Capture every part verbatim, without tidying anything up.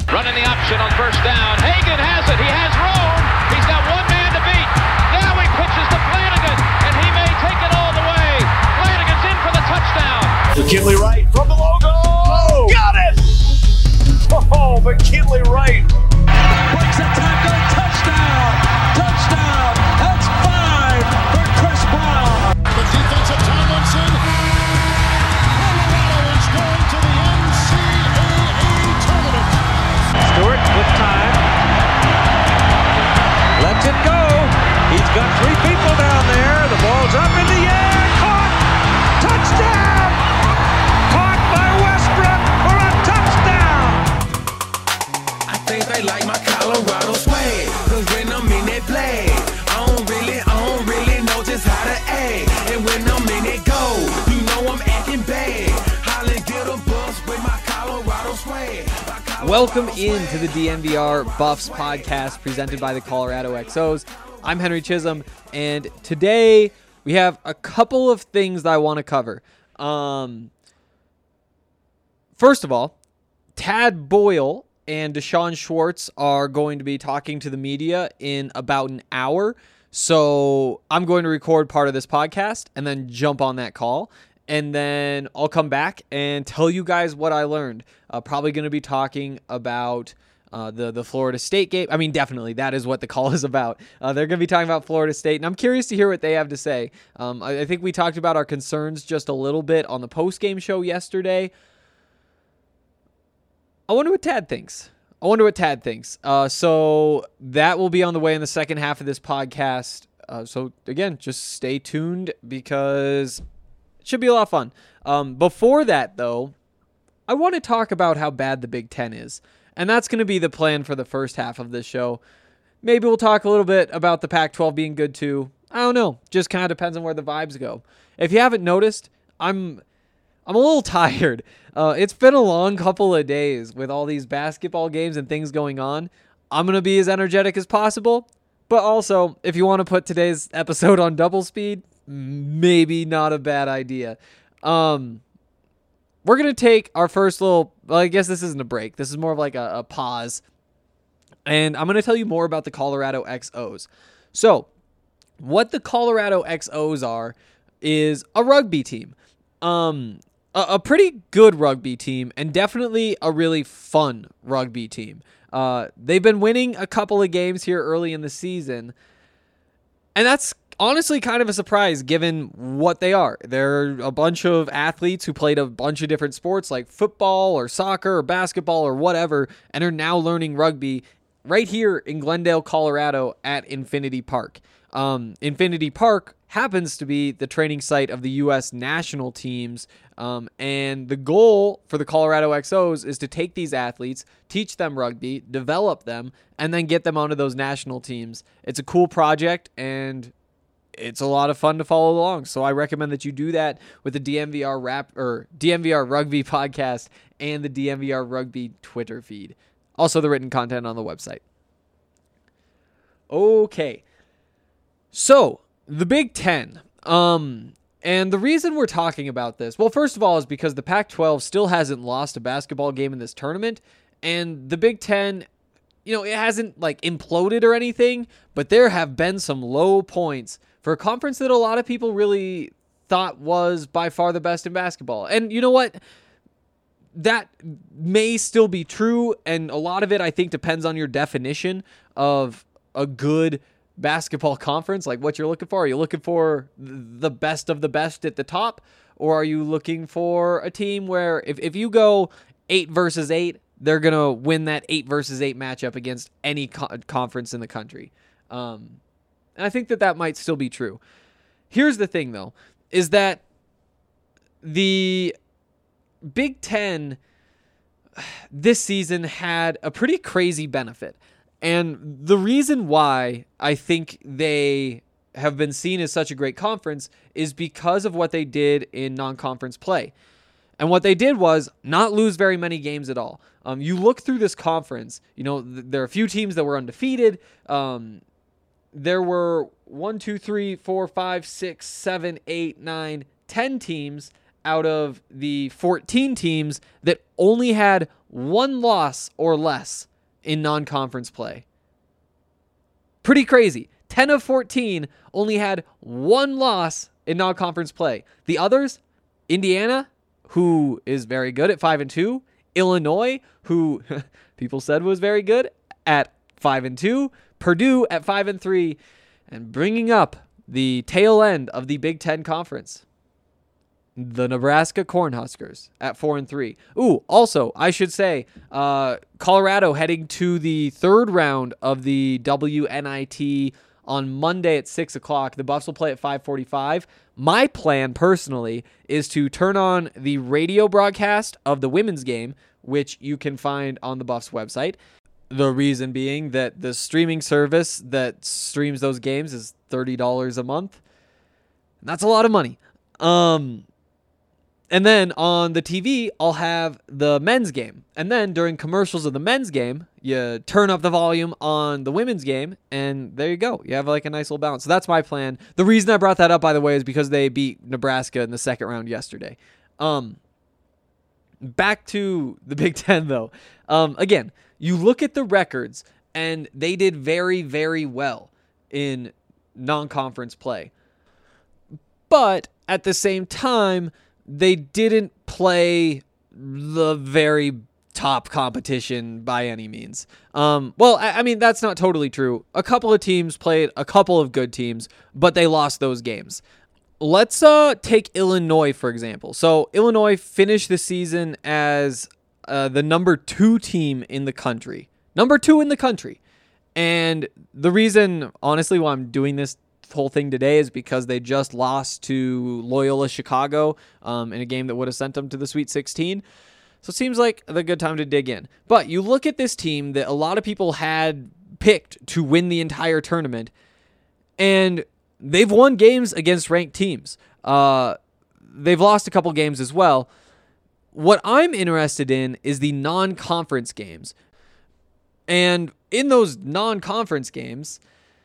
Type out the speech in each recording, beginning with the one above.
Running the option on first down. Hagan has it. He has room. He's got one man to beat. Now he pitches to Flanagan, and he may take it all the way. Flanagan's in for the touchdown. McKinley Wright from the logo. Oh, got it! Oh, McKinley Wright. Breaks a tackle. Touchdown. Touchdown. That's five for Chris Brown. The defense of Tomlinson. Colorado is going to the N C double A tournament. Stewart with time. Lets it go. He's got three people down there. The ball's up in the air. Caught. Touchdown. Caught by Westbrook for a touchdown. I think they like my Colorado swag. Cause when I'm in that play, I don't really, I don't really know just how to act. And when I'm in it go, you know I'm acting bad. Holly get a bus with my Colorado swag. My Colorado Welcome swag. into the D N V R Buffs podcast presented by the Colorado X Os. I'm Henry Chisholm, and today we have a couple of things that I want to cover. Um, first of all, Tad Boyle and Deshaun Schwartz are going to be talking to the media in about an hour. So I'm going to record part of this podcast and then jump on that call. And then I'll come back and tell you guys what I learned. Uh, probably going to be talking about uh, the, the Florida State game. I mean, definitely, that is what the call is about. Uh, they're going to be talking about Florida State, and I'm curious to hear what they have to say. Um, I, I think we talked about our concerns just a little bit on the post-game show yesterday. I wonder what Tad thinks. I wonder what Tad thinks. Uh, so that will be on the way in the second half of this podcast. Uh, so again, just stay tuned because it should be a lot of fun. Um, before that, though, I want to talk about how bad the Big Ten is. And that's going to be the plan for the first half of this show. Maybe we'll talk a little bit about the Pac twelve being good too. I don't know. Just kind of depends on where the vibes go. If you haven't noticed, I'm I'm a little tired. Uh, it's been a long couple of days with all these basketball games and things going on. I'm going to be as energetic as possible. But also, if you want to put today's episode on double speed, maybe not a bad idea. Um, we're going to take our first little, well, I guess this isn't a break. This is more of like a, a pause. And I'm going to tell you more about the Colorado X Os. So, what the Colorado X Os are is a rugby team. Um, a, a pretty good rugby team, and definitely a really fun rugby team. Uh, they've been winning a couple of games here early in the season, and that's honestly kind of a surprise given what they are. They're a bunch of athletes who played a bunch of different sports like football or soccer or basketball or whatever, and are now learning rugby right here in Glendale, Colorado at Infinity Park. Um, Infinity Park happens to be the training site of the U S national teams, um, and the goal for the Colorado X Os is to take these athletes, teach them rugby, develop them, and then get them onto those national teams. It's a cool project, and it's a lot of fun to follow along. So I recommend that you do that with the D N V R rap or D N V R Rugby podcast and the D N V R Rugby Twitter feed. Also the written content on the website. Okay. So, the Big Ten. Um, and the reason we're talking about this, well, first of all, is because the Pac twelve still hasn't lost a basketball game in this tournament. And the Big Ten, you know, it hasn't like imploded or anything, but there have been some low points for a conference that a lot of people really thought was by far the best in basketball. And you know what? That may still be true, and a lot of it, I think, depends on your definition of a good basketball conference, like what you're looking for. Are you looking for the best of the best at the top, or are you looking for a team where if, if you go eight versus eight, they're going to win that eight versus eight matchup against any co- conference in the country? Um, and I think that that might still be true. Here's the thing, though, is that the Big Ten this season had a pretty crazy benefit. And the reason why I think they have been seen as such a great conference is because of what they did in non-conference play. And what they did was not lose very many games at all. Um, you look through this conference, you know, th- there are a few teams that were undefeated. Um, there were one, two, three, four, five, six, seven, eight, nine, ten teams out of the fourteen teams that only had one loss or less in non-conference play. Pretty crazy. ten of fourteen only had one loss in non-conference play. The others, Indiana, who is very good at five and two, Illinois, who people said was very good at five and two, Purdue at five and three, and bringing up the tail end of the Big Ten Conference, the Nebraska Cornhuskers at four and three. Ooh, also, I should say, uh, Colorado heading to the third round of the W N I T on Monday at six o'clock. The Buffs will play at five forty-five. My plan, personally, is to turn on the radio broadcast of the women's game, which you can find on the Buffs website. The reason being that the streaming service that streams those games is thirty dollars a month. That's a lot of money. Um... And then on the T V, I'll have the men's game. And then during commercials of the men's game, you turn up the volume on the women's game, and there you go. You have like a nice little balance. So that's my plan. The reason I brought that up, by the way, is because they beat Nebraska in the second round yesterday. Um, back to the Big Ten, though. Um, again, you look at the records, and they did very, very well in non-conference play. But at the same time, they didn't play the very top competition by any means. Um, well, I, I mean, that's not totally true. A couple of teams played a couple of good teams, but they lost those games. Let's uh, take Illinois, for example. So Illinois finished the season as uh, the number two team in the country. Number two in the country. And the reason, honestly, why I'm doing this whole thing today is because they just lost to Loyola Chicago um, in a game that would have sent them to the Sweet sixteen. So it seems like the good time to dig in. But you look at this team that a lot of people had picked to win the entire tournament, and they've won games against ranked teams. Uh, they've lost a couple games as well. What I'm interested in is the non-conference games. And in those non-conference games,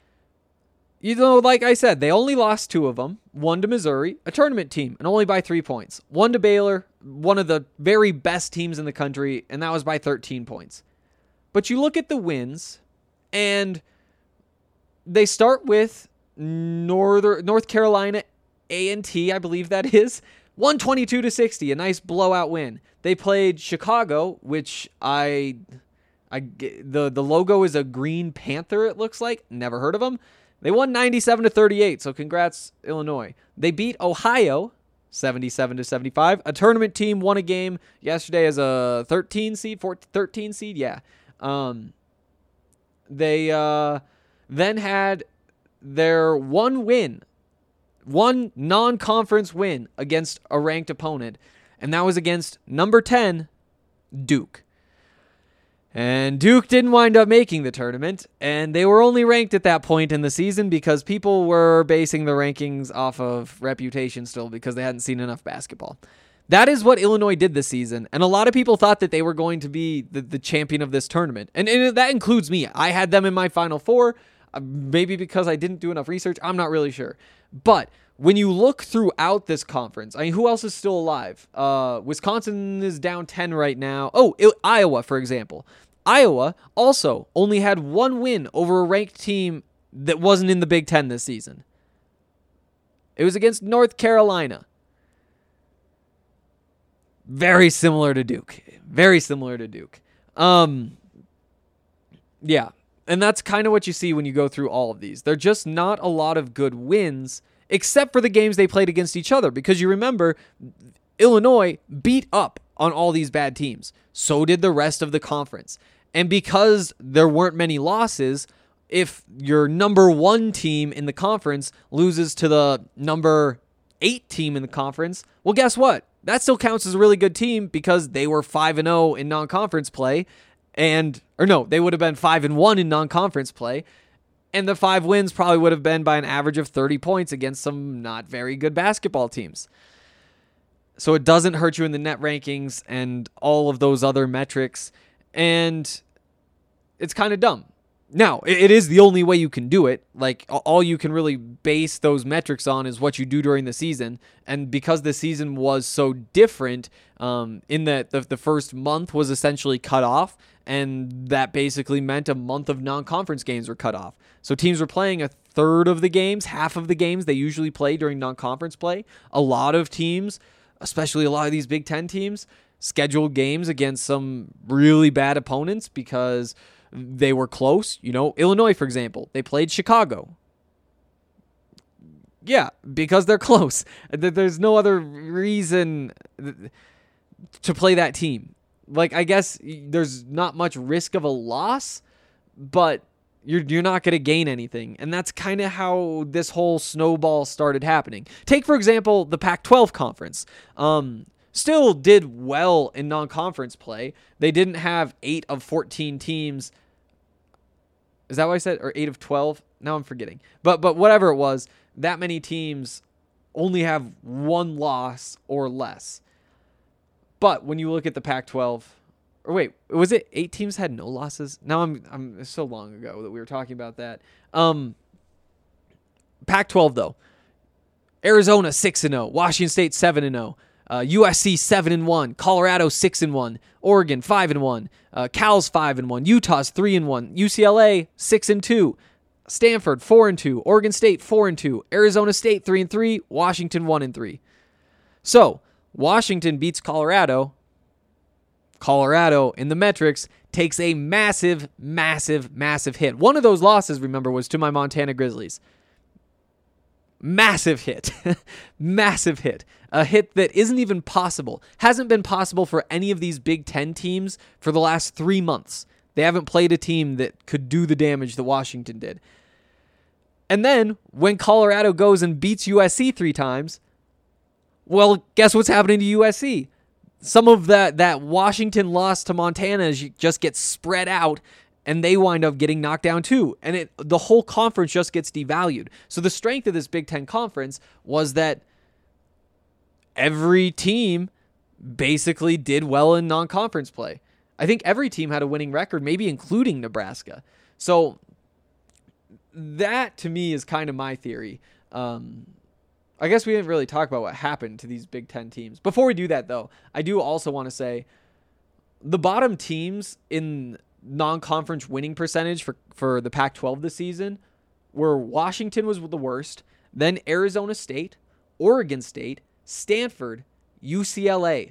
you know, like I said, they only lost two of them. One to Missouri, a tournament team, and only by three points. One to Baylor, one of the very best teams in the country, and that was by thirteen points. But you look at the wins, and they start with Northern North Carolina A and T, I believe that is, one twenty-two to sixty, a nice blowout win. They played Chicago, which I, I the the logo is a Green Panther. It looks like. Never heard of them. They won ninety-seven to thirty-eight, so congrats, Illinois. They beat Ohio seventy-seven to seventy-five. A tournament team won a game yesterday as a thirteen seed, fourteen, thirteen seed, yeah. Um, they uh, then had their one win, one non-conference win against a ranked opponent, and that was against number ten, Duke. And Duke didn't wind up making the tournament, and they were only ranked at that point in the season because people were basing the rankings off of reputation still because they hadn't seen enough basketball. That is what Illinois did this season, and a lot of people thought that they were going to be the, the champion of this tournament. And, and that includes me. I had them in my Final Four, uh, maybe because I didn't do enough research. I'm not really sure. But when you look throughout this conference, I mean, who else is still alive? Uh, Wisconsin is down ten right now. Oh, it, Iowa, for example. Iowa also only had one win over a ranked team that wasn't in the Big Ten this season. It was against North Carolina. Very similar to Duke. Very similar to Duke. Um, yeah, and that's kind of what you see when you go through all of these. They're just not a lot of good wins, except for the games they played against each other. Because you remember, Illinois beat up on all these bad teams. So did the rest of the conference. And because there weren't many losses, if your number one team in the conference loses to the number eight team in the conference, well, guess what? That still counts as a really good team because they were five and oh in non-conference play. And, or no, they would have been five and one in non-conference play. And the five wins probably would have been by an average of thirty points against some not very good basketball teams. So it doesn't hurt you in the net rankings and all of those other metrics. And it's kind of dumb Now, it is the only way you can do it. Like, all you can really base those metrics on is what you do during the season. And because the season was so different, um, in that the, the first month was essentially cut off, and that basically meant a month of non-conference games were cut off. So teams were playing a third of the games, half of the games they usually play during non-conference play. A lot of teams, especially a lot of these Big Ten teams, scheduled games against some really bad opponents because they were close. You know, Illinois, for example, they played Chicago. Yeah, because they're close. There's no other reason to play that team. Like, I guess there's not much risk of a loss, but you're you're not going to gain anything. And that's kind of how this whole snowball started happening. Take, for example, the Pac twelve conference. Um, still did well in non-conference play. They didn't have eight of fourteen teams. Is that what I said? Or eight of twelve? Now I'm forgetting. But but whatever it was, that many teams only have one loss or less. But when you look at the Pac twelve, or wait, was it eight teams had no losses? Now I'm I'm it's so long ago that we were talking about that. Um, Pac twelve though, Arizona six and zero, Washington State seven and zero, uh, U S C seven and one, Colorado six and one, Oregon five and one, uh, Cal's five and one, Utah's three and one, U C L A six and two, Stanford four and two, Oregon State four and two, Arizona State three and three, Washington one and three. So Washington beats Colorado. Colorado, in the metrics, takes a massive, massive, massive hit. One of those losses, remember, was to my Montana Grizzlies. Massive hit. Massive hit. A hit that isn't even possible. Hasn't been possible for any of these Big Ten teams for the last three months. They haven't played a team that could do the damage that Washington did. And then, when Colorado goes and beats U S C three times, well, guess what's happening to U S C? Some of that, that Washington loss to Montana just gets spread out, and they wind up getting knocked down too. And it the whole conference just gets devalued. So the strength of this Big Ten conference was that every team basically did well in non-conference play. I think every team had a winning record, maybe including Nebraska. So that, to me, is kind of my theory. Um... I guess we didn't really talk about what happened to these Big Ten teams. Before we do that, though, I do also want to say the bottom teams in non-conference winning percentage for, for the Pac twelve this season were Washington was the worst, then Arizona State, Oregon State, Stanford, U C L A.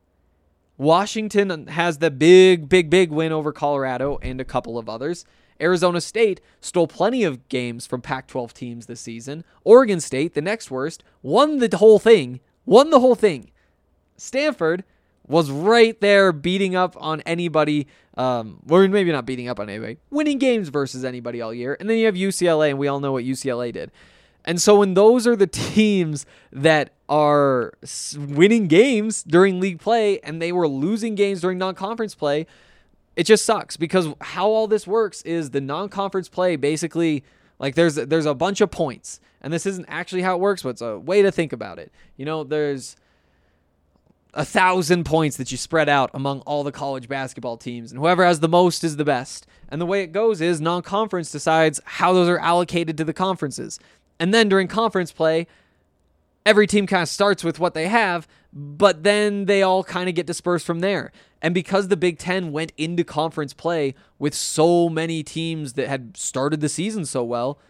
Washington has the big, big, big win over Colorado and a couple of others. Arizona State stole plenty of games from Pac twelve teams this season. Oregon State, the next worst, won the whole thing. Won the whole thing. Stanford was right there beating up on anybody, um, or maybe not beating up on anybody, winning games versus anybody all year. And then you have U C L A, and we all know what U C L A did. And so when those are the teams that are winning games during league play, and they were losing games during non-conference play, it just sucks, because how all this works is the non-conference play basically, like there's there's a bunch of points, and this isn't actually how it works, but it's a way to think about it. You know, there's a thousand points that you spread out among all the college basketball teams, and whoever has the most is the best. And the way it goes is non-conference decides how those are allocated to the conferences. And then during conference play, every team kind of starts with what they have, but then they all kind of get dispersed from there. And because the Big Ten went into conference play with so many teams that had started the season so well,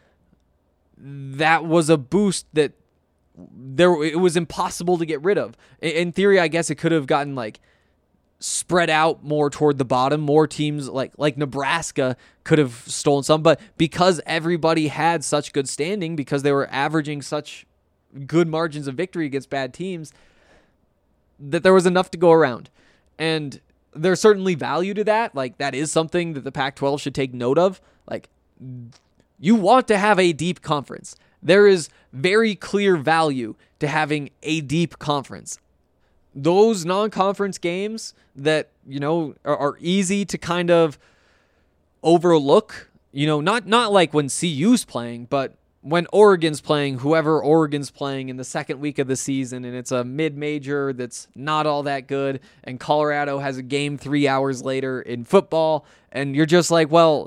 that was a boost that there it was impossible to get rid of. In theory, I guess it could have gotten like spread out more toward the bottom. More teams like like Nebraska could have stolen some, but because everybody had such good standing, because they were averaging such good margins of victory against bad teams, that there was enough to go around. And there's certainly value to that. Like, that is something that the Pac twelve should take note of. Like, you want to have a deep conference. There is very clear value to having a deep conference. Those non-conference games that, you know, are, are easy to kind of overlook, you know, not, not like when C U's playing, but when Oregon's playing, whoever Oregon's playing in the second week of the season, and it's a mid-major that's not all that good, and Colorado has a game three hours later in football, and you're just like, well,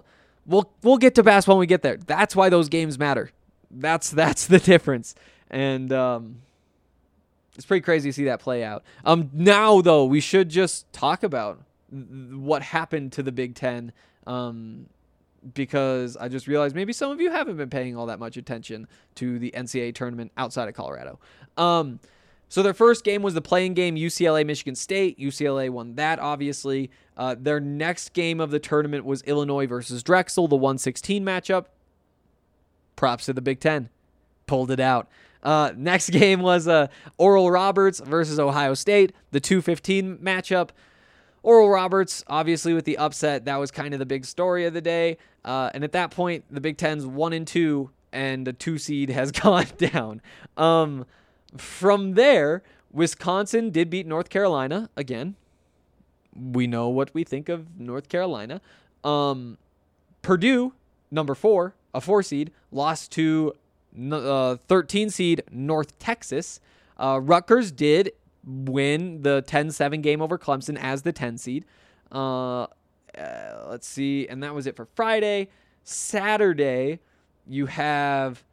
we'll we'll get to basketball when we get there. That's why those games matter. That's that's the difference. And um, it's pretty crazy to see that play out. Um, now though, we should just talk about what happened to the Big Ten. Um, because I just realized maybe some of you haven't been paying all that much attention to the N C double A tournament outside of Colorado. Um, so their first game was the playing game, U C L A, Michigan State. U C L A won that, obviously. Uh, their next game of the tournament was Illinois versus Drexel, the one sixteen matchup. Props to the Big Ten. Pulled it out. Uh, next game was uh, Oral Roberts versus Ohio State, the two fifteen matchup. Oral Roberts, obviously with the upset, that was kind of the big story of the day. Uh, and at that point, the Big Ten's one and two, and the two seed has gone down. Um, from there, Wisconsin did beat North Carolina again. We know what we think of North Carolina. Um, Purdue, number four, a four seed, lost to uh, thirteen seed North Texas. Uh, Rutgers did win the ten seven game over Clemson as the ten seed. Uh, uh, let's see. And that was it for Friday. Saturday, you have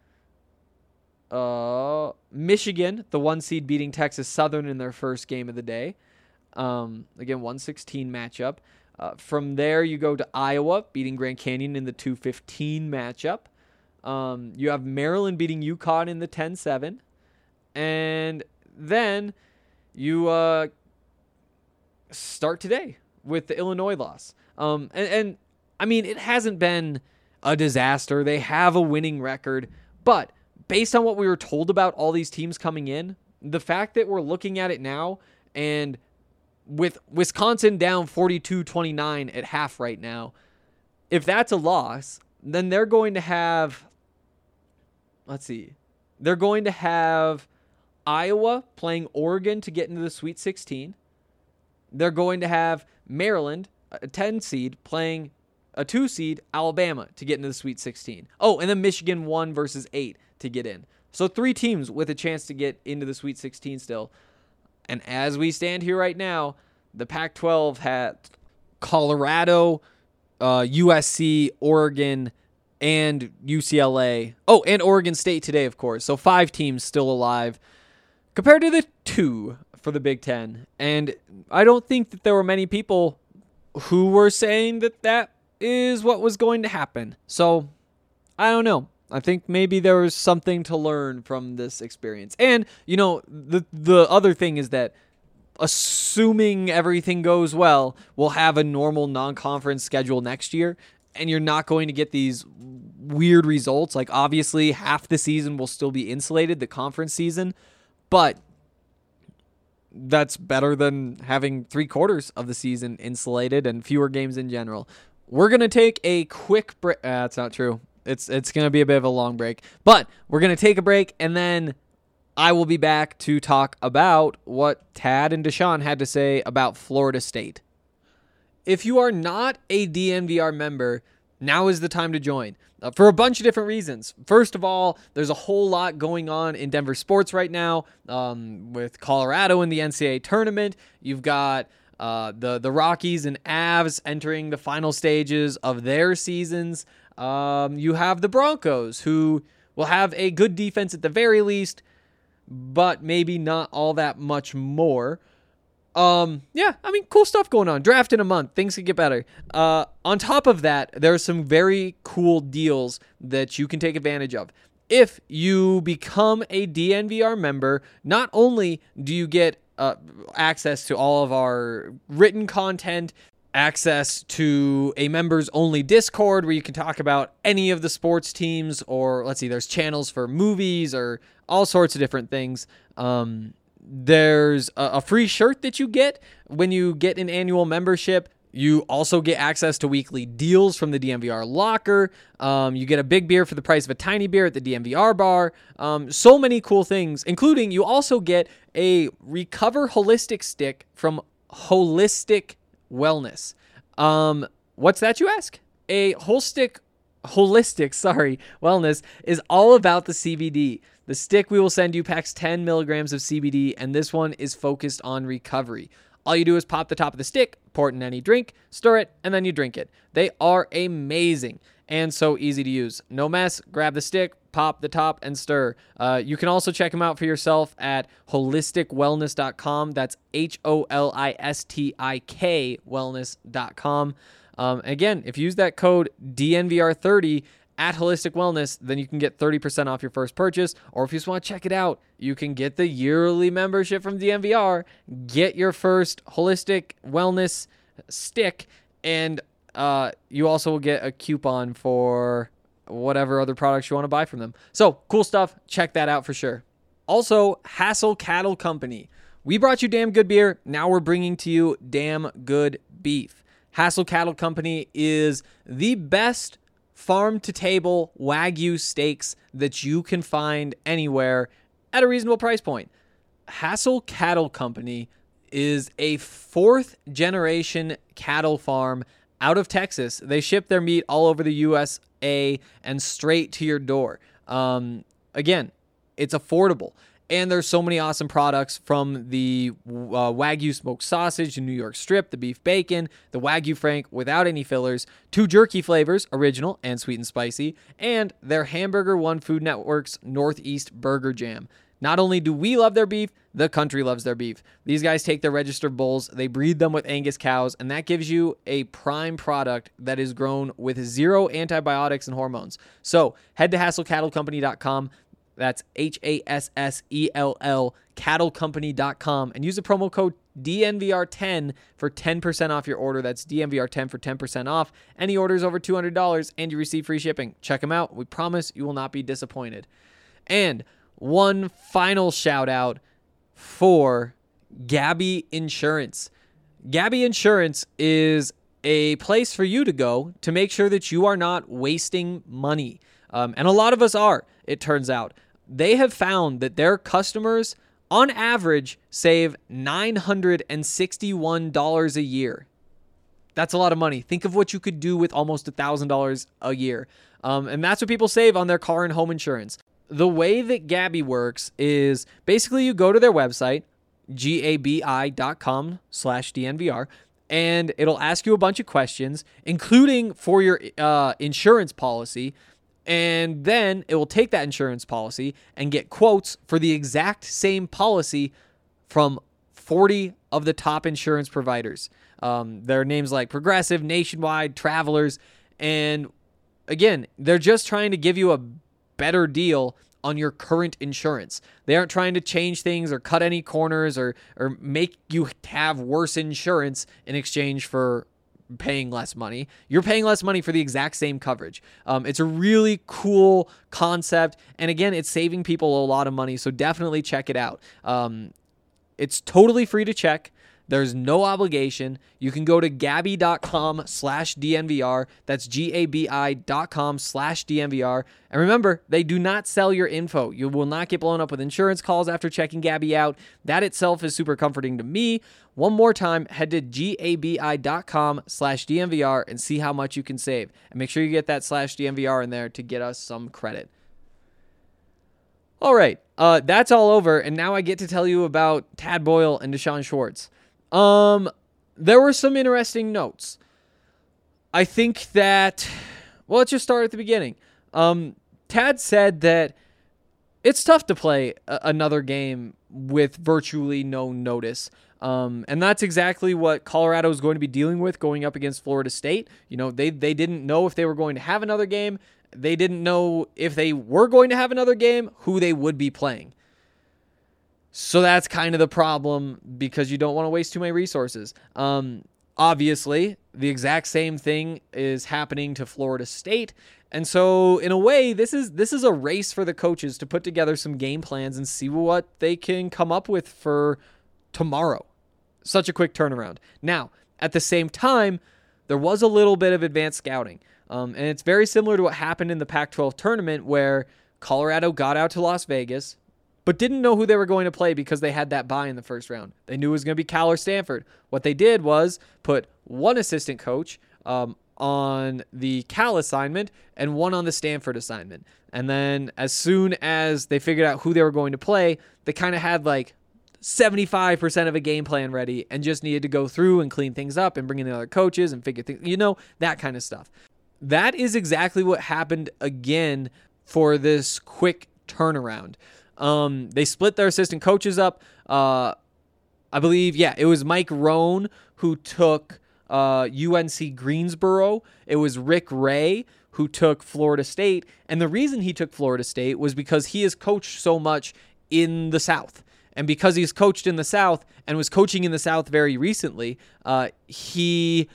uh, Michigan, the one seed, beating Texas Southern in their first game of the day. Um, again, one sixteen matchup. Uh, from there, you go to Iowa, beating Grand Canyon in the two fifteen matchup. Um, you have Maryland beating UConn in the ten seven. And then you uh, start today with the Illinois loss. Um, and, and, I mean, it hasn't been a disaster. They have a winning record. But based on what we were told about all these teams coming in, the fact that we're looking at it now, and with Wisconsin down forty-two twenty-nine at half right now, if that's a loss, then they're going to have, let's see, they're going to have Iowa playing Oregon to get into the Sweet sixteen. They're going to have Maryland, a ten seed, playing a two seed, Alabama, to get into the Sweet sixteen. Oh, and then Michigan one versus eight to get in. So three teams with a chance to get into the Sweet sixteen still. And as we stand here right now, the Pac twelve had Colorado, uh, U S C, Oregon, and U C L A. Oh, and Oregon State today, of course. So five teams still alive compared to the two for the Big Ten. And I don't think that there were many people who were saying that that is what was going to happen. So I don't know. I think maybe there was something to learn from this experience. And, you know, the the other thing is that assuming everything goes well, we'll have a normal non-conference schedule next year, and you're not going to get these weird results. Like, obviously, half the season will still be insulated, the conference season, but that's better than having three quarters of the season insulated and fewer games in general. We're going to take a quick break. Uh, that's not true. It's it's going to be a bit of a long break. But we're going to take a break, and then I will be back to talk about what Tad and Deshaun had to say about Florida State. If you are not a D N V R member, now is the time to join. Uh, for a bunch of different reasons. First of all, there's a whole lot going on in Denver sports right now. Um, with Colorado in the N C double A tournament, you've got uh, the, the Rockies and Avs entering the final stages of their seasons. Um, you have the Broncos, who will have a good defense at the very least, but maybe not all that much more. Um, yeah, I mean, cool stuff going on. Draft in a month. Things could get better. Uh, on top of that, there are some very cool deals that you can take advantage of. If you become a D N V R member, not only do you get uh, access to all of our written content, access to a members only Discord where you can talk about any of the sports teams, or let's see, there's channels for movies or all sorts of different things. Um, there's a, a free shirt that you get when you get an annual membership. You also get access to weekly deals from the D N V R locker. Um, you get a big beer for the price of a tiny beer at the D N V R bar. Um, so many cool things, including you also get a Recover Holistic stick from Holistic Wellness. Um, what's that, you ask? A holistic, holistic, sorry, wellness is all about the C B D. The stick we will send you packs ten milligrams of C B D, and this one is focused on recovery. All you do is pop the top of the stick, pour it in any drink, stir it, and then you drink it. They are amazing. and so easy to use. No mess, grab the stick, pop the top, and stir. Uh, you can also check them out for yourself at holistic wellness dot com. That's H O L I S T I K wellness dot com. Um, again, if you use that code D N V R thirty at Holistic Wellness, then you can get thirty percent off your first purchase. Or if you just want to check it out, you can get the yearly membership from D N V R, get your first Holistic Wellness stick, and uh, you also will get a coupon for whatever other products you want to buy from them. So, cool stuff. Check that out for sure. Also, Hassel Cattle Company. We brought you damn good beer. Now we're bringing to you damn good beef. Hassel Cattle Company is the best farm-to-table Wagyu steaks that you can find anywhere at a reasonable price point. Hassel Cattle Company is a fourth-generation cattle farm out of Texas. They ship their meat all over the U S A and straight to your door. Um, again, it's affordable. And there's so many awesome products, from the uh, Wagyu smoked sausage, the New York strip, the beef bacon, the Wagyu Frank without any fillers, two jerky flavors, original and sweet and spicy, and their Hamburger One Food Network's Northeast Burger Jam. Not only do we love their beef, the country loves their beef. These guys take their registered bulls, they breed them with Angus cows, and that gives you a prime product that is grown with zero antibiotics and hormones. So head to hassel cattle company dot com. That's H A S S E L L, cattle company dot com, and use the promo code D N V R ten for ten percent off your order. That's D N V R ten for ten percent off. Any orders over two hundred dollars, and you receive free shipping. Check them out. We promise you will not be disappointed. And one final shout out for Gabby Insurance. Gabby Insurance is a place for you to go to make sure that you are not wasting money. Um, and a lot of us are, it turns out. They have found that their customers, on average, save nine hundred sixty-one dollars a year. That's a lot of money. Think of what you could do with almost one thousand dollars a year. Um, and that's what people save on their car and home insurance. The way that Gabby works is basically you go to their website, gabi dot com slash D N V R, and it'll ask you a bunch of questions, including for your uh, insurance policy. And then it will take that insurance policy and get quotes for the exact same policy from forty of the top insurance providers. Um, their names like Progressive, Nationwide, Travelers. And again, they're just trying to give you a better deal on your current insurance. They aren't trying to change things or cut any corners or, or make you have worse insurance in exchange for paying less money. You're paying less money for the exact same coverage. Um, it's a really cool concept. And again, it's saving people a lot of money. So definitely check it out. Um, it's totally free to check. There's no obligation. You can go to gabi dot com slash D N V R. That's G A B I dot com slash D N V R. And remember, they do not sell your info. You will not get blown up with insurance calls after checking Gabby out. That itself is super comforting to me. One more time, head to gabi dot com slash D N V R and see how much you can save. And make sure you get that slash D N V R in there to get us some credit. All right, uh, that's all over. And now I get to tell you about Tad Boyle and Deshaun Schwartz. Um, there were some interesting notes. I think that, well, let's just start at the beginning. Um, Tad said that it's tough to play a- another game with virtually no notice. Um, and that's exactly what Colorado is going to be dealing with going up against Florida State. You know, they, they didn't know if they were going to have another game. They didn't know if they were going to have another game, who they would be playing. So that's kind of the problem, because you don't want to waste too many resources. Um, obviously, the exact same thing is happening to Florida State. And so in a way, this is this is a race for the coaches to put together some game plans and see what they can come up with for tomorrow. Such a quick turnaround. Now, at the same time, there was a little bit of advanced scouting. Um, and it's very similar to what happened in the Pac twelve tournament, where Colorado got out to Las Vegas, but didn't know who they were going to play because they had that bye in the first round. They knew it was going to be Cal or Stanford. What they did was put one assistant coach um, on the Cal assignment and one on the Stanford assignment. And then as soon as they figured out who they were going to play, they kind of had like seventy-five percent of a game plan ready and just needed to go through and clean things up and bring in the other coaches and figure things, you know, that kind of stuff. that is exactly what happened again for this quick turnaround. Um, they split their assistant coaches up. Uh, I believe, yeah, it was Mike Rohn who took uh, U N C Greensboro. It was Rick Ray who took Florida State. And the reason he took Florida State was because he has coached so much in the South. And because he's coached in the South and was coaching in the South very recently, uh, he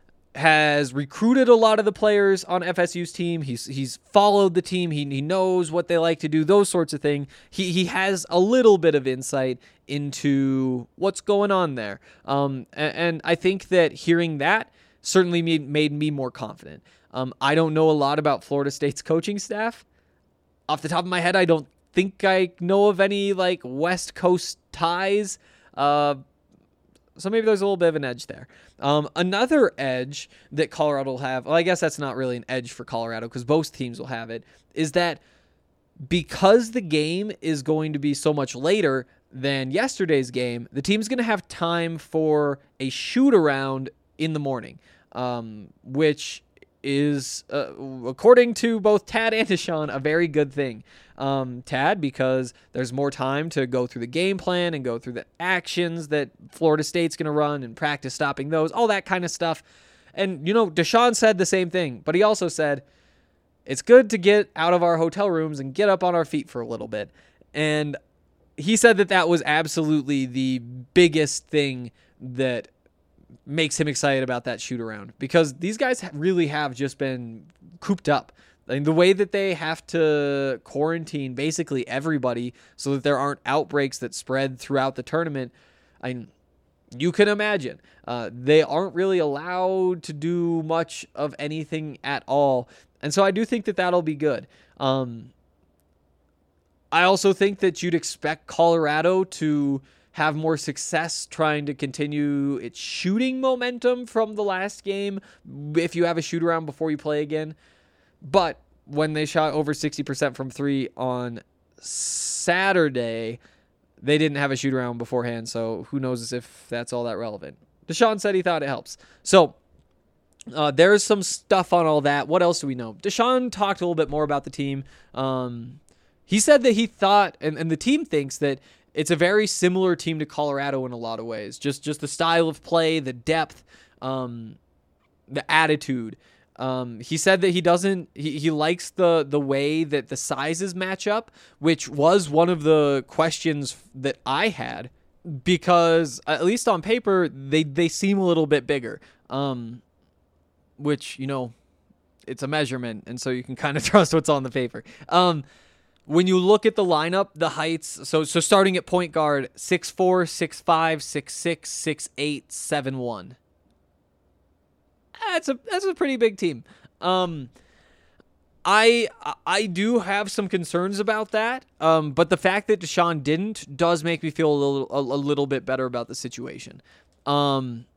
has recruited a lot of the players on F S U's team. He's he's followed the team. He he knows what they like to do, those sorts of things. He he has a little bit of insight into what's going on there. Um, and, and I think that hearing that certainly made, made me more confident. Um, I don't know a lot about Florida State's coaching staff. Off the top of my head, I don't think I know of any like West Coast ties. Uh, so maybe there's a little bit of an edge there. Um, another edge that Colorado will have, well, I guess that's not really an edge for Colorado because both teams will have it, is that because the game is going to be so much later than yesterday's game, the team's going to have time for a shoot-around in the morning, um, which is, uh, according to both Tad and Deshaun, a very good thing. Um, Tad, because there's more time to go through the game plan and go through the actions that Florida State's going to run and practice stopping those, all that kind of stuff. And, you know, Deshaun said the same thing, but he also said, it's good to get out of our hotel rooms and get up on our feet for a little bit. And he said that that was absolutely the biggest thing that makes him excited about that shoot around, because these guys really have just been cooped up. I mean, the way that they have to quarantine basically everybody so that there aren't outbreaks that spread throughout the tournament, I mean, you can imagine. Uh, they aren't really allowed to do much of anything at all. And so I do think that that'll be good. Um, I also think that you'd expect Colorado to have more success trying to continue its shooting momentum from the last game if you have a shoot around before you play again. But when they shot over sixty percent from three on Saturday, they didn't have a shoot around beforehand, so who knows if that's all that relevant. Deshaun said he thought it helps. So uh, there's some stuff on all that. What else do we know? Deshaun talked a little bit more about the team. Um, he said that he thought, and, and the team thinks that it's a very similar team to Colorado in a lot of ways. Just just the style of play, the depth, um, the attitude. Um, he said that he doesn't, he, he likes the, the way that the sizes match up, which was one of the questions that I had, because at least on paper, they, they seem a little bit bigger, um, which, you know, it's a measurement. And so you can kind of trust what's on the paper. Um, when you look at the lineup, the heights, so, so starting at point guard, six four, six five, six six, six eight, seven one. That's a that's a pretty big team. Um, I I do have some concerns about that. Um, but the fact that Deshaun didn't does make me feel a little a, a little bit better about the situation. Um,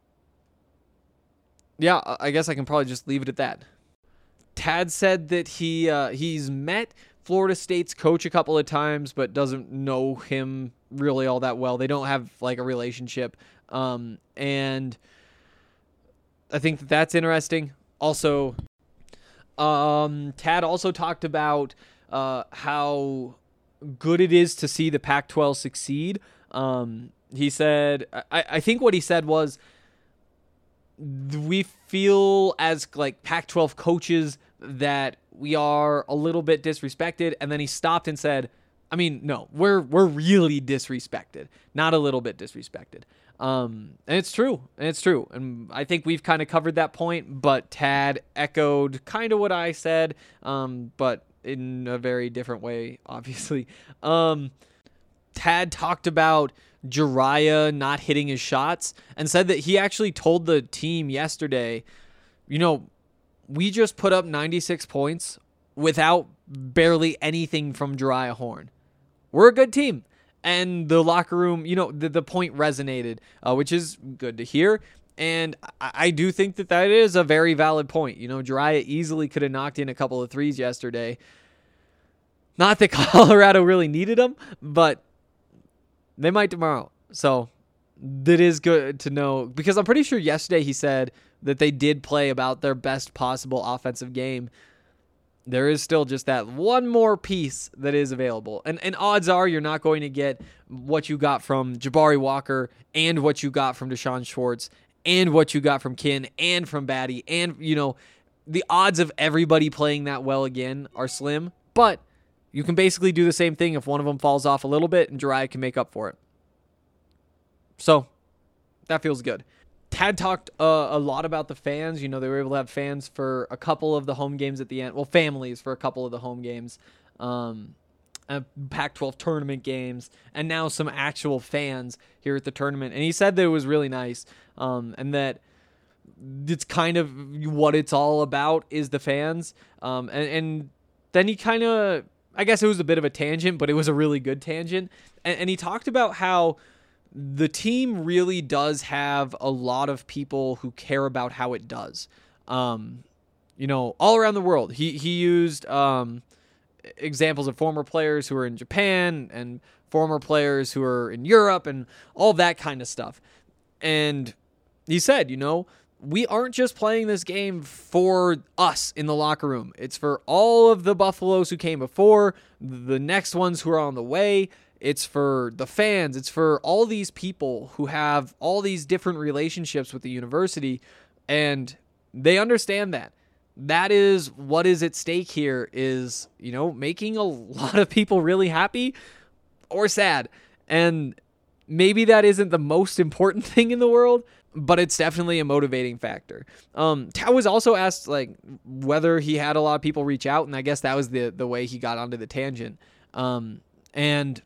yeah, I guess I can probably just leave it at that. Tad said that he uh, he's met Florida State's coach a couple of times, but doesn't know him really all that well. They don't have like a relationship, um, and I think that that's interesting. Also, um, Tad also talked about uh, how good it is to see the Pac twelve succeed. Um, he said, I, I think what he said was, we feel as like Pac twelve coaches that we are a little bit disrespected. And then he stopped and said, I mean, no, we're we're really disrespected, not a little bit disrespected. Um, and it's true, and it's true. And I think we've kind of covered that point, but Tad echoed kind of what I said, um, but in a very different way, obviously. Um, Tad talked about Jiraiya not hitting his shots and said that he actually told the team yesterday, you know, we just put up ninety-six points without barely anything from Jiraiya Horn. We're a good team. And the locker room, you know, the, the point resonated, uh, which is good to hear. And I, I do think that that is a very valid point. You know, Jiraiya easily could have knocked in a couple of threes yesterday. Not that Colorado really needed them, but they might tomorrow. So that is good to know, because I'm pretty sure yesterday he said that they did play about their best possible offensive game, there is still just that one more piece that is available. And and odds are you're not going to get what you got from Jabari Walker and what you got from Deshaun Schwartz and what you got from Kin and from Batty. And, you know, the odds of everybody playing that well again are slim. But you can basically do the same thing if one of them falls off a little bit and Jariah can make up for it. So that feels good. Tad talked uh, a lot about the fans. You know, they were able to have fans for a couple of the home games at the end. Well, families for a couple of the home games. Um, uh, Pac twelve tournament games. And now some actual fans here at the tournament. And he said that it was really nice. Um, and that it's kind of what it's all about is the fans. Um, and, and then he kind of, I guess it was a bit of a tangent, but it was a really good tangent. And, and he talked about how the team really does have a lot of people who care about how it does. Um, you know, all around the world. He he used um, examples of former players who are in Japan and former players who are in Europe and all that kind of stuff. And he said, you know, we aren't just playing this game for us in the locker room. It's for all of the Buffaloes who came before, the next ones who are on the way. It's for the fans. It's for all these people who have all these different relationships with the university, and they understand that. That is what is at stake here is, you know, making a lot of people really happy or sad. And maybe that isn't the most important thing in the world, but it's definitely a motivating factor. Um, Tao was also asked like whether he had a lot of people reach out, and I guess that was the the way he got onto the tangent. Um, and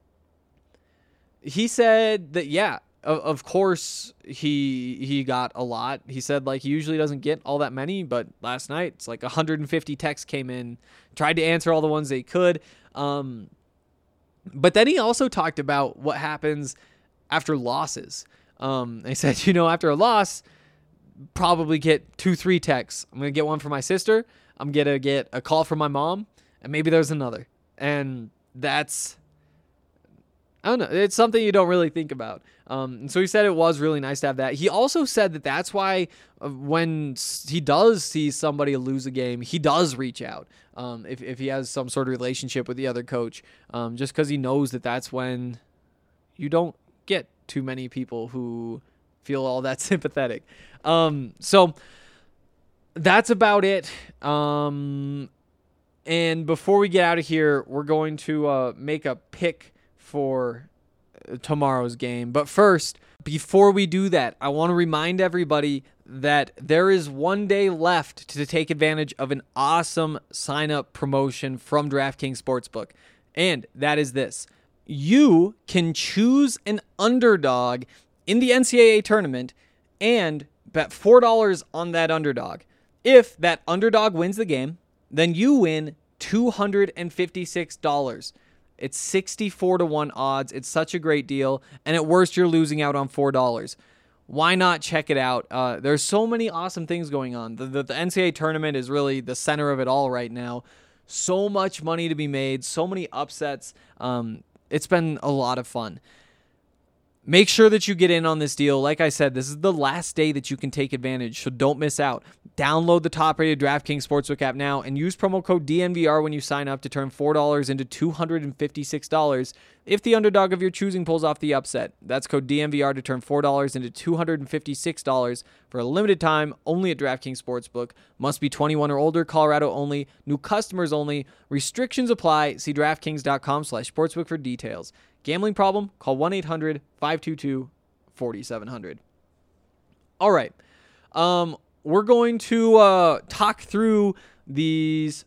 he said that, yeah, of, of course he he got a lot. He said like he usually doesn't get all that many, but last night it's like one hundred fifty texts came in, tried to answer all the ones they could. Um, but then he also talked about what happens after losses. Um, they said, you know, after a loss, probably get two, three texts. I'm going to get one from my sister. I'm going to get a call from my mom, and maybe there's another. And that's, I don't know, it's something you don't really think about. Um, and so he said it was really nice to have that. He also said that that's why uh, when he does see somebody lose a game, he does reach out um, if, if he has some sort of relationship with the other coach, um, just because he knows that that's when you don't get too many people who feel all that sympathetic. Um, so that's about it. Um, and before we get out of here, we're going to uh, make a pick for tomorrow's game. But first, before we do that, I want to remind everybody that there is one day left to take advantage of an awesome sign-up promotion from DraftKings Sportsbook. And that is this. You can choose an underdog in the N C double A tournament and bet four dollars on that underdog. If that underdog wins the game, then you win two hundred fifty-six dollars. It's sixty-four to one odds. It's such a great deal. And at worst, you're losing out on four dollars. Why not check it out? Uh, there's so many awesome things going on. The, the, the N C double A tournament is really the center of it all right now. So much money to be made. So many upsets. Um, it's been a lot of fun. Make sure that you get in on this deal. Like I said, this is the last day that you can take advantage, so don't miss out. Download the top-rated DraftKings Sportsbook app now and use promo code D N V R when you sign up to turn four dollars into two hundred fifty-six dollars if the underdog of your choosing pulls off the upset. That's code D N V R to turn four dollars into two hundred fifty-six dollars for a limited time only at DraftKings Sportsbook. Must be twenty-one or older, Colorado only, new customers only. Restrictions apply. See DraftKings.com slash sportsbook for details. Gambling problem? Call one eight hundred five two two four seven zero zero. All right. Um, we're going to uh, talk through these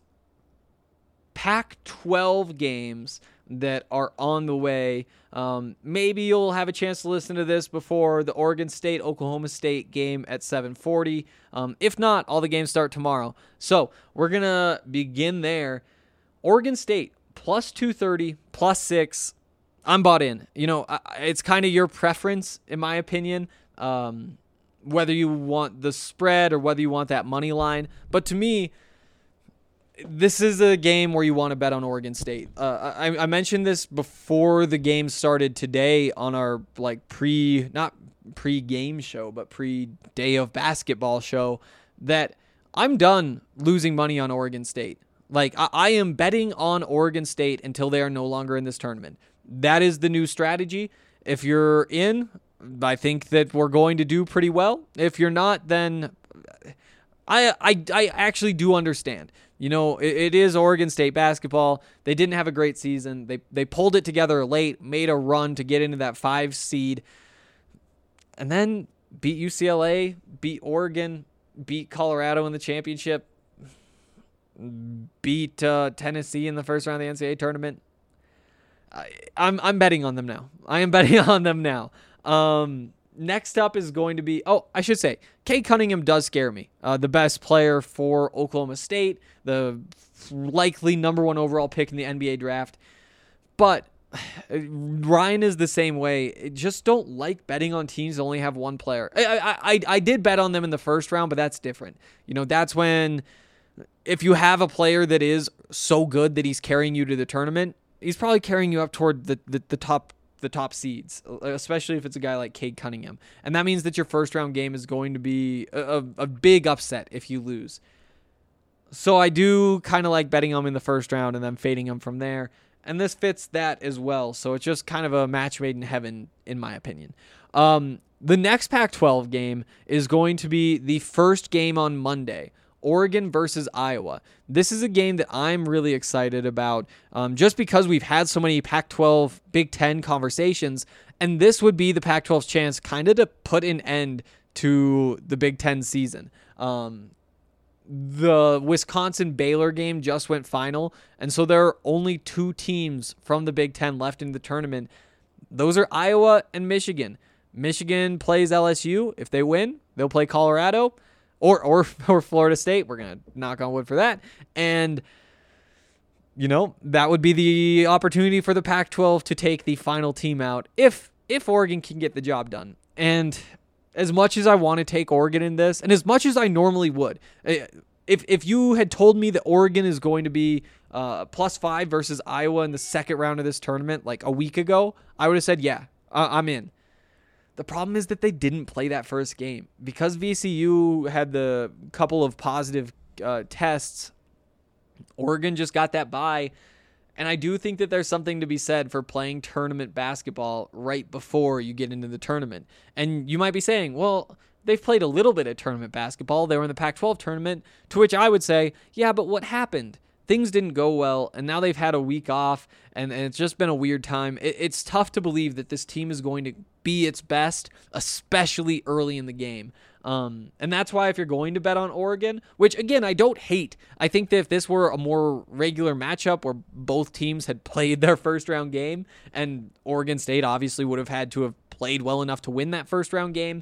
Pac twelve games that are on the way. Um, maybe you'll have a chance to listen to this before the Oregon State, Oklahoma State game at seven forty. Um, if not, all the games start tomorrow. So we're going to begin there. Oregon State, plus two thirty, plus six. I'm bought in. You know, it's kind of your preference, in my opinion, um, whether you want the spread or whether you want that money line. But to me, this is a game where you want to bet on Oregon State. Uh, I, I mentioned this before the game started today on our like pre, not pre-game show, but pre-day of basketball show, that I'm done losing money on Oregon State. Like, I, I am betting on Oregon State until they are no longer in this tournament. That is the new strategy. If you're in, I think that we're going to do pretty well. If you're not, then I I, I actually do understand. You know, it, it is Oregon State basketball. They didn't have a great season. They they pulled it together late, made a run to get into that five seed, and then beat U C L A, beat Oregon, beat Colorado in the championship, beat uh, Tennessee in the first round of the N C double A tournament. I, I'm I'm betting on them now. I am betting on them now. Um, next up is going to be, oh, I should say, Cade Cunningham does scare me. Uh, the best player for Oklahoma State, the likely number one overall pick in the N B A draft. But Ryan is the same way. Just don't like betting on teams that only have one player. I, I, I, I did bet on them in the first round, but that's different. You know, that's when if you have a player that is so good that he's carrying you to the tournament, he's probably carrying you up toward the, the, the top the top seeds, especially if it's a guy like Cade Cunningham. And that means that your first round game is going to be a, a, a big upset if you lose. So I do kind of like betting him in the first round and then fading him from there. And this fits that as well. So it's just kind of a match made in heaven, in my opinion. Um, the next Pac twelve game is going to be the first game on Monday. Oregon versus Iowa. This is a game that I'm really excited about um, just because we've had so many Pac twelve, Big Ten conversations, and this would be the Pac twelve's chance kind of to put an end to the Big Ten season. Um, the Wisconsin-Baylor game just went final, and so there are only two teams from the Big Ten left in the tournament. Those are Iowa and Michigan. Michigan plays L S U. If they win, they'll play Colorado. Or, or or Florida State. We're going to knock on wood for that. And, you know, that would be the opportunity for the Pac twelve to take the final team out if if Oregon can get the job done. And as much as I want to take Oregon in this, and as much as I normally would, if if you had told me that Oregon is going to be uh, plus five versus Iowa in the second round of this tournament like a week ago, I would have said, yeah, I'm in. The problem is that they didn't play that first game. Because V C U had the couple of positive uh, tests, Oregon just got that bye. And I do think that there's something to be said for playing tournament basketball right before you get into the tournament. And you might be saying, well, they've played a little bit of tournament basketball. They were in the Pac twelve tournament, to which I would say, yeah, but what happened? Things didn't go well, and now they've had a week off, and, and it's just been a weird time. It, it's tough to believe that this team is going to be its best, especially early in the game. Um, and that's why if you're going to bet on Oregon, which, again, I don't hate. I think that if this were a more regular matchup where both teams had played their first-round game, and Oregon State obviously would have had to have played well enough to win that first-round game,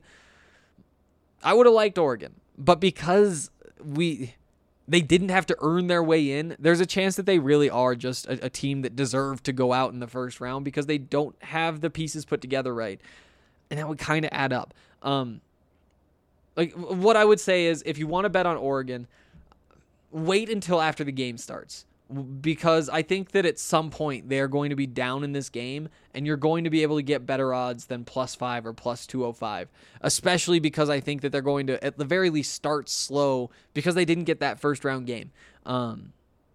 I would have liked Oregon. But because we... they didn't have to earn their way in, there's a chance that they really are just a, a team that deserved to go out in the first round because they don't have the pieces put together right. And that would kind of add up. Um, like what I would say is if you want to bet on Oregon, wait until after the game starts. Because I think that at some point they're going to be down in this game and you're going to be able to get better odds than plus five or plus two oh five, especially because I think that they're going to at the very least start slow because they didn't get that first round game. Um,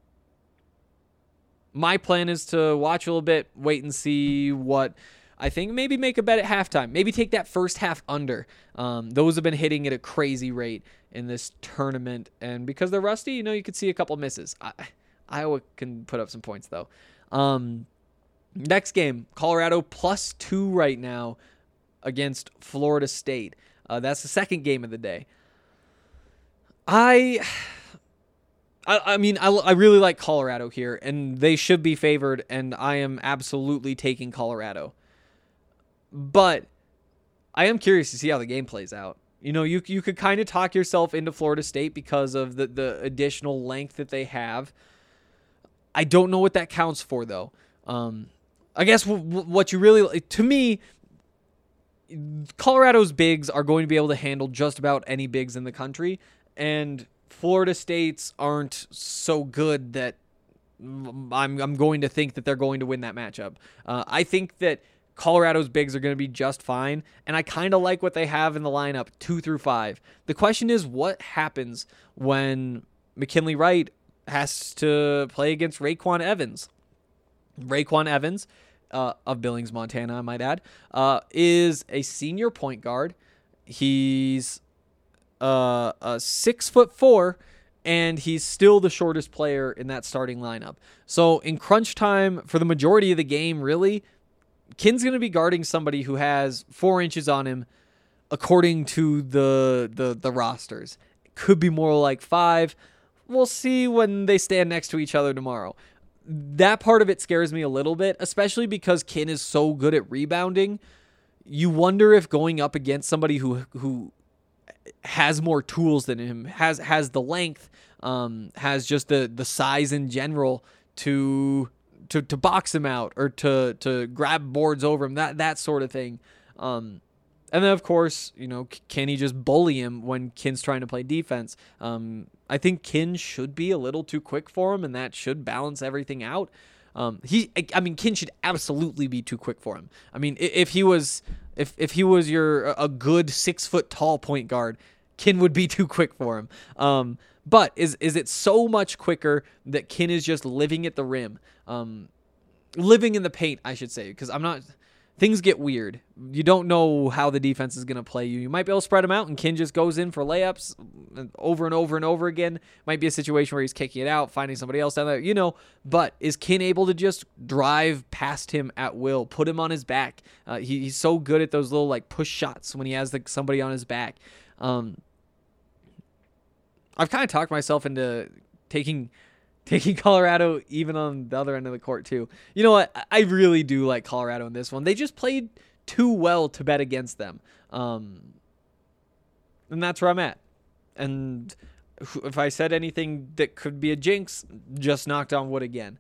my plan is to watch a little bit, wait and see what I think, maybe make a bet at halftime, maybe take that first half under. Um, those have been hitting at a crazy rate in this tournament. And because they're rusty, you know, you could see a couple misses. I, Iowa can put up some points, though. Um, next game, Colorado plus two right now against Florida State. Uh, that's the second game of the day. I, I, I mean, I, I really like Colorado here, and they should be favored, and I am absolutely taking Colorado. But I am curious to see how the game plays out. You know, you you could kind of talk yourself into Florida State because of the, the additional length that they have. I don't know what that counts for, though. Um, I guess w- w- what you really... To me, Colorado's bigs are going to be able to handle just about any bigs in the country. And Florida State's aren't so good that I'm I'm going to think that they're going to win that matchup. Uh, I think that Colorado's bigs are going to be just fine, and I kind of like what they have in the lineup, two through five. The question is, what happens when McKinley Wright has to play against Raekwon Evans? Raekwon Evans, uh, of Billings, Montana, I might add, uh, is a senior point guard. He's uh, a six foot four, and he's still the shortest player in that starting lineup. So in crunch time, for the majority of the game, really, Kin's going to be guarding somebody who has four inches on him, according to the the the rosters. It could be more like five. We'll see when they stand next to each other tomorrow. That part of it scares me a little bit, especially because Kin is so good at rebounding. You wonder if going up against somebody who who has more tools than him, has has the length, um, has just the the size in general to to to box him out or to to grab boards over him, that that sort of thing. Um, and then of course, you know, can he just bully him when Kin's trying to play defense? Um, I think Kin should be a little too quick for him, and that should balance everything out. Um, he, I mean, Kin should absolutely be too quick for him. I mean, if he was, if if he was your a good six foot tall point guard, Kin would be too quick for him. Um, but is is it so much quicker that Kin is just living at the rim, um, living in the paint, I should say, because I'm not. Things get weird. You don't know how the defense is going to play you. You might be able to spread them out, and Kin just goes in for layups over and over and over again. Might be a situation where he's kicking it out, finding somebody else down there, you know. But is Kin able to just drive past him at will, put him on his back? Uh, he, he's so good at those little like push shots when he has like somebody on his back. Um, I've kind of talked myself into taking... Taking Colorado even on the other end of the court, too. You know what? I really do like Colorado in this one. They just played too well to bet against them. Um, and that's where I'm at. And if I said anything that could be a jinx, just knocked on wood again.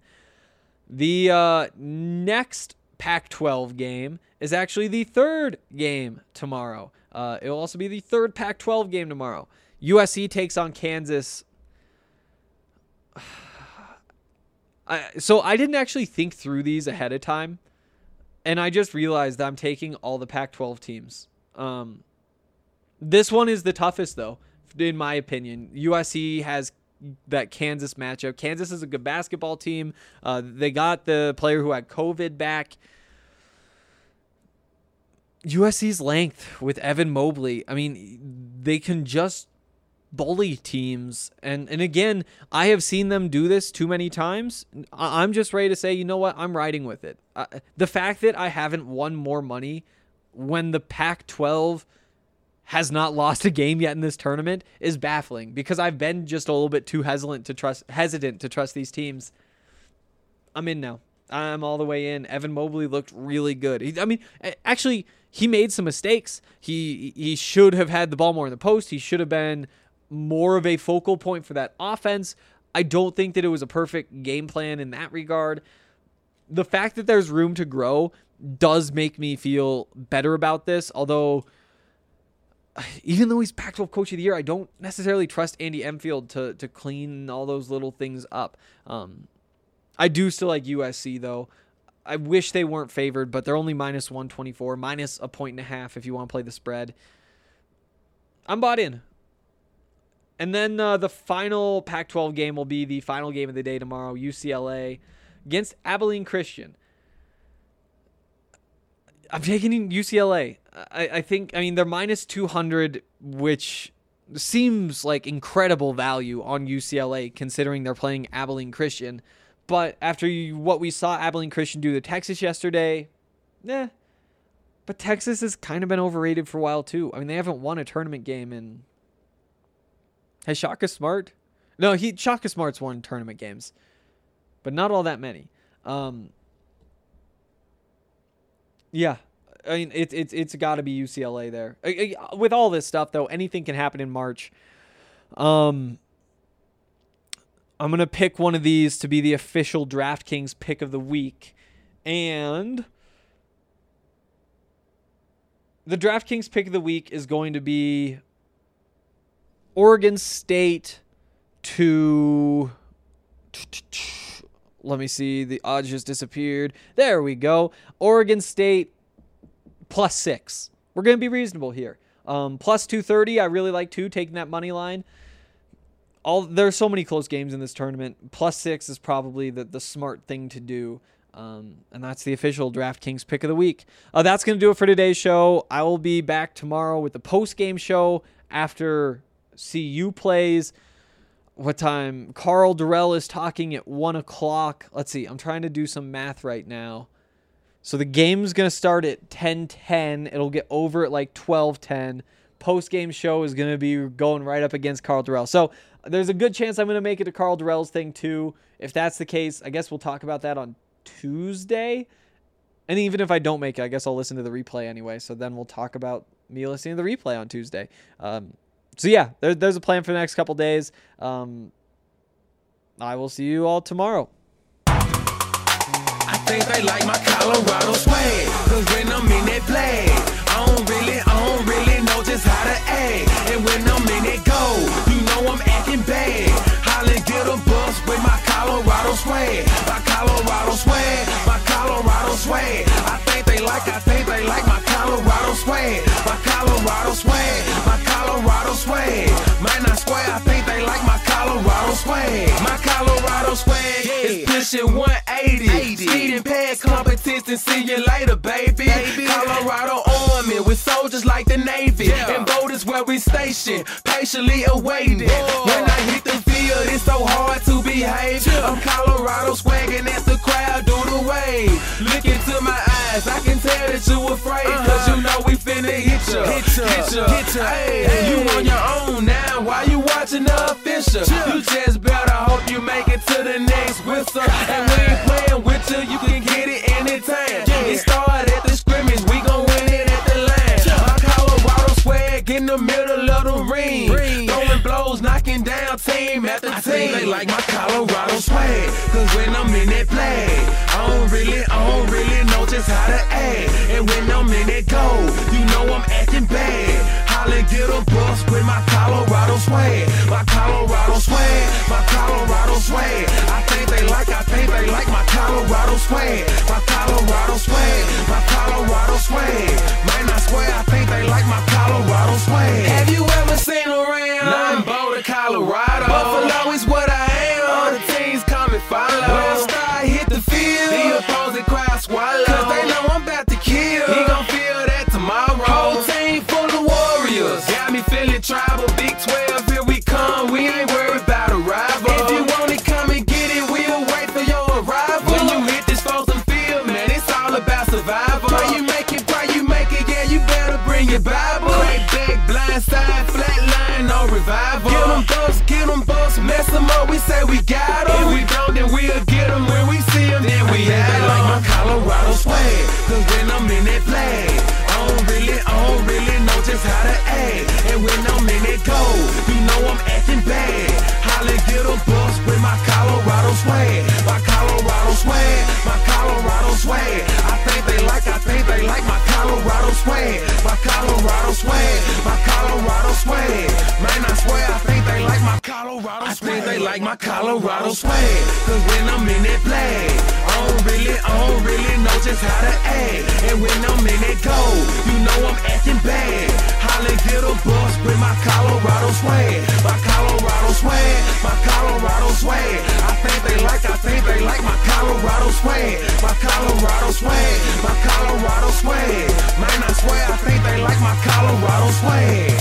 The uh, next Pac twelve game is actually the third game tomorrow. Uh, it will also be the third Pac twelve game tomorrow. U S C takes on Kansas. I, so I didn't actually think through these ahead of time, and I just realized that I'm taking all the Pac twelve teams. Um, this one is the toughest, though, in my opinion. U S C has that Kansas matchup. Kansas is a good basketball team. Uh, they got the player who had COVID back. U S C's length with Evan Mobley, I mean, they can just bully teams, and and again, I have seen them do this too many times. I'm just ready to say, you know what, I'm riding with it. Uh, the fact that I haven't won more money when the Pac twelve has not lost a game yet in this tournament is baffling, because I've been just a little bit too hesitant to trust hesitant to trust these teams. I'm in now. I'm all the way in. Evan Mobley looked really good. He, I mean, actually, he made some mistakes. He he should have had the ball more in the post. He should have been more of a focal point for that offense. I don't think that it was a perfect game plan in that regard. The fact that there's room to grow does make me feel better about this, although even though he's Pac twelve Coach of the Year, I don't necessarily trust Andy Enfield to to clean all those little things up. Um, I do still like U S C, though. I wish they weren't favored, but they're only minus one twenty-four, minus a point and a half if you want to play the spread. I'm bought in. And then uh, the final Pac twelve game will be the final game of the day tomorrow, U C L A against Abilene Christian. I'm taking U C L A. I, I think, I mean, they're minus two hundred, which seems like incredible value on U C L A considering they're playing Abilene Christian. But after you, what we saw Abilene Christian do to Texas yesterday, eh. But Texas has kind of been overrated for a while, too. I mean, they haven't won a tournament game in... Has Shaka Smart? No, he Shaka Smart's won tournament games, but not all that many. Um, yeah, I mean it's it's it's got to be U C L A there. With all this stuff, though, anything can happen in March. Um, I'm gonna pick one of these to be the official DraftKings pick of the week, and the DraftKings pick of the week is going to be Oregon State to, let me see, the odds just disappeared. There we go. Oregon State plus six. We're going to be reasonable here. Um, plus two thirty. I really like two, taking that money line. All There's so many close games in this tournament. Plus six is probably the, the smart thing to do. Um, and that's the official DraftKings pick of the week. Uh, that's going to do it for today's show. I will be back tomorrow with the post-game show after C U plays. What time? Carl Durrell is talking at one o'clock. Let's see. I'm trying to do some math right now. So the game's going to start at ten ten. It'll get over at like twelve ten. Post-game show is going to be going right up against Carl Durrell. So there's a good chance I'm going to make it to Carl Durrell's thing too. If that's the case, I guess we'll talk about that on Tuesday. And even if I don't make it, I guess I'll listen to the replay anyway. So then we'll talk about me listening to the replay on Tuesday. Um, so yeah, there, there's a plan for the next couple days. Um, I will see you all tomorrow. I think they like my Colorado swag, cause when I'm in that play, I don't really, I don't really know just how to act. And when I'm in that go, you know I'm acting bad. Holla, get a bus with my Colorado swag, my Colorado swag, my Colorado swag. I think they like, I think they like my Colorado swag, my Colorado swag, my Colorado swag. Man, I swear, I think they like my Colorado swag, my Colorado swag is pushing one eighty. Speeding past competition, see you later, baby. baby. Colorado Army with soldiers like the Navy, yeah. And boat is where we station, patiently awaiting. Whoa. When I hit the field, it's so hard to behave. Yeah. I'm Colorado swagging at the crowd, do the wave. Look into my eyes, I can tell that you afraid, uh-huh. Cause you know we finna hit ya, hit ya, hit ya. Hit ya. Hey, hey. You on your own now, why you watching the official? Yeah. You just better hope you make it to the next whistle. And we ain't playing with you, you can get it anytime. Yeah. It started at the scrimmage, we gon' win it at the line. Yeah. My Colorado swag in the middle of the ring, ring. Throwing blows, knocking down team after I team. Think they like my Colorado swag, cause when I'm in that play, I don't really, I don't really know just how to act. And when I'm in that go, you know I'm acting bad. Holla, get a bus with my Colorado swag, my Colorado swag, my Colorado swag. I think they like, I think they like my Colorado swag, my Colorado swag, my Colorado swag. Man, I swear, I think they like my Colorado swag. Have you ever seen around? Nothing Boulder, Colorado. Buffalo is what I am. All the teams come and follow. When I start hit the field, the opposing crowd swallow. Cause they know I'm about to kill. He gon' feel that tomorrow. Whole team full of warriors. Got me feeling tribal. Big twelve, here we come. We ain't worried about a rival. If you want it, come and get it. We'll wait for your arrival. When you hit this frozen field, man, it's all about survival. Pray you make it, pray you make it. Yeah, you better bring your Bible. Crack back, blind side, flat line, no revival. Get them bucks, get them bucks, mess them up. We say we got them. If we don't, then we'll get them. When we see them, then we have them. Like my Colorado swag, cause when I'm in that play, I don't really, I don't really know just how to act. And when I'm in that go, you know I'm acting bad. Holla, get a bus with my Colorado swag, my Colorado swag, my Colorado swag. I think they like, I think they like my Colorado swag, my Colorado swag, my Colorado swag. Man, I swear, I think they like my Colorado swag. I think they like my Colorado swag, cause when I'm in that play, I don't really, I don't really know just how to act. And when I'm in that go, you know I'm acting bad. Holla, get a bus with my Colorado swag, my Colorado swag, my Colorado swag. I think they like, I think they like my Colorado swag, my Colorado swag, my Colorado swag. Man, I swear, I think they like my Colorado swag.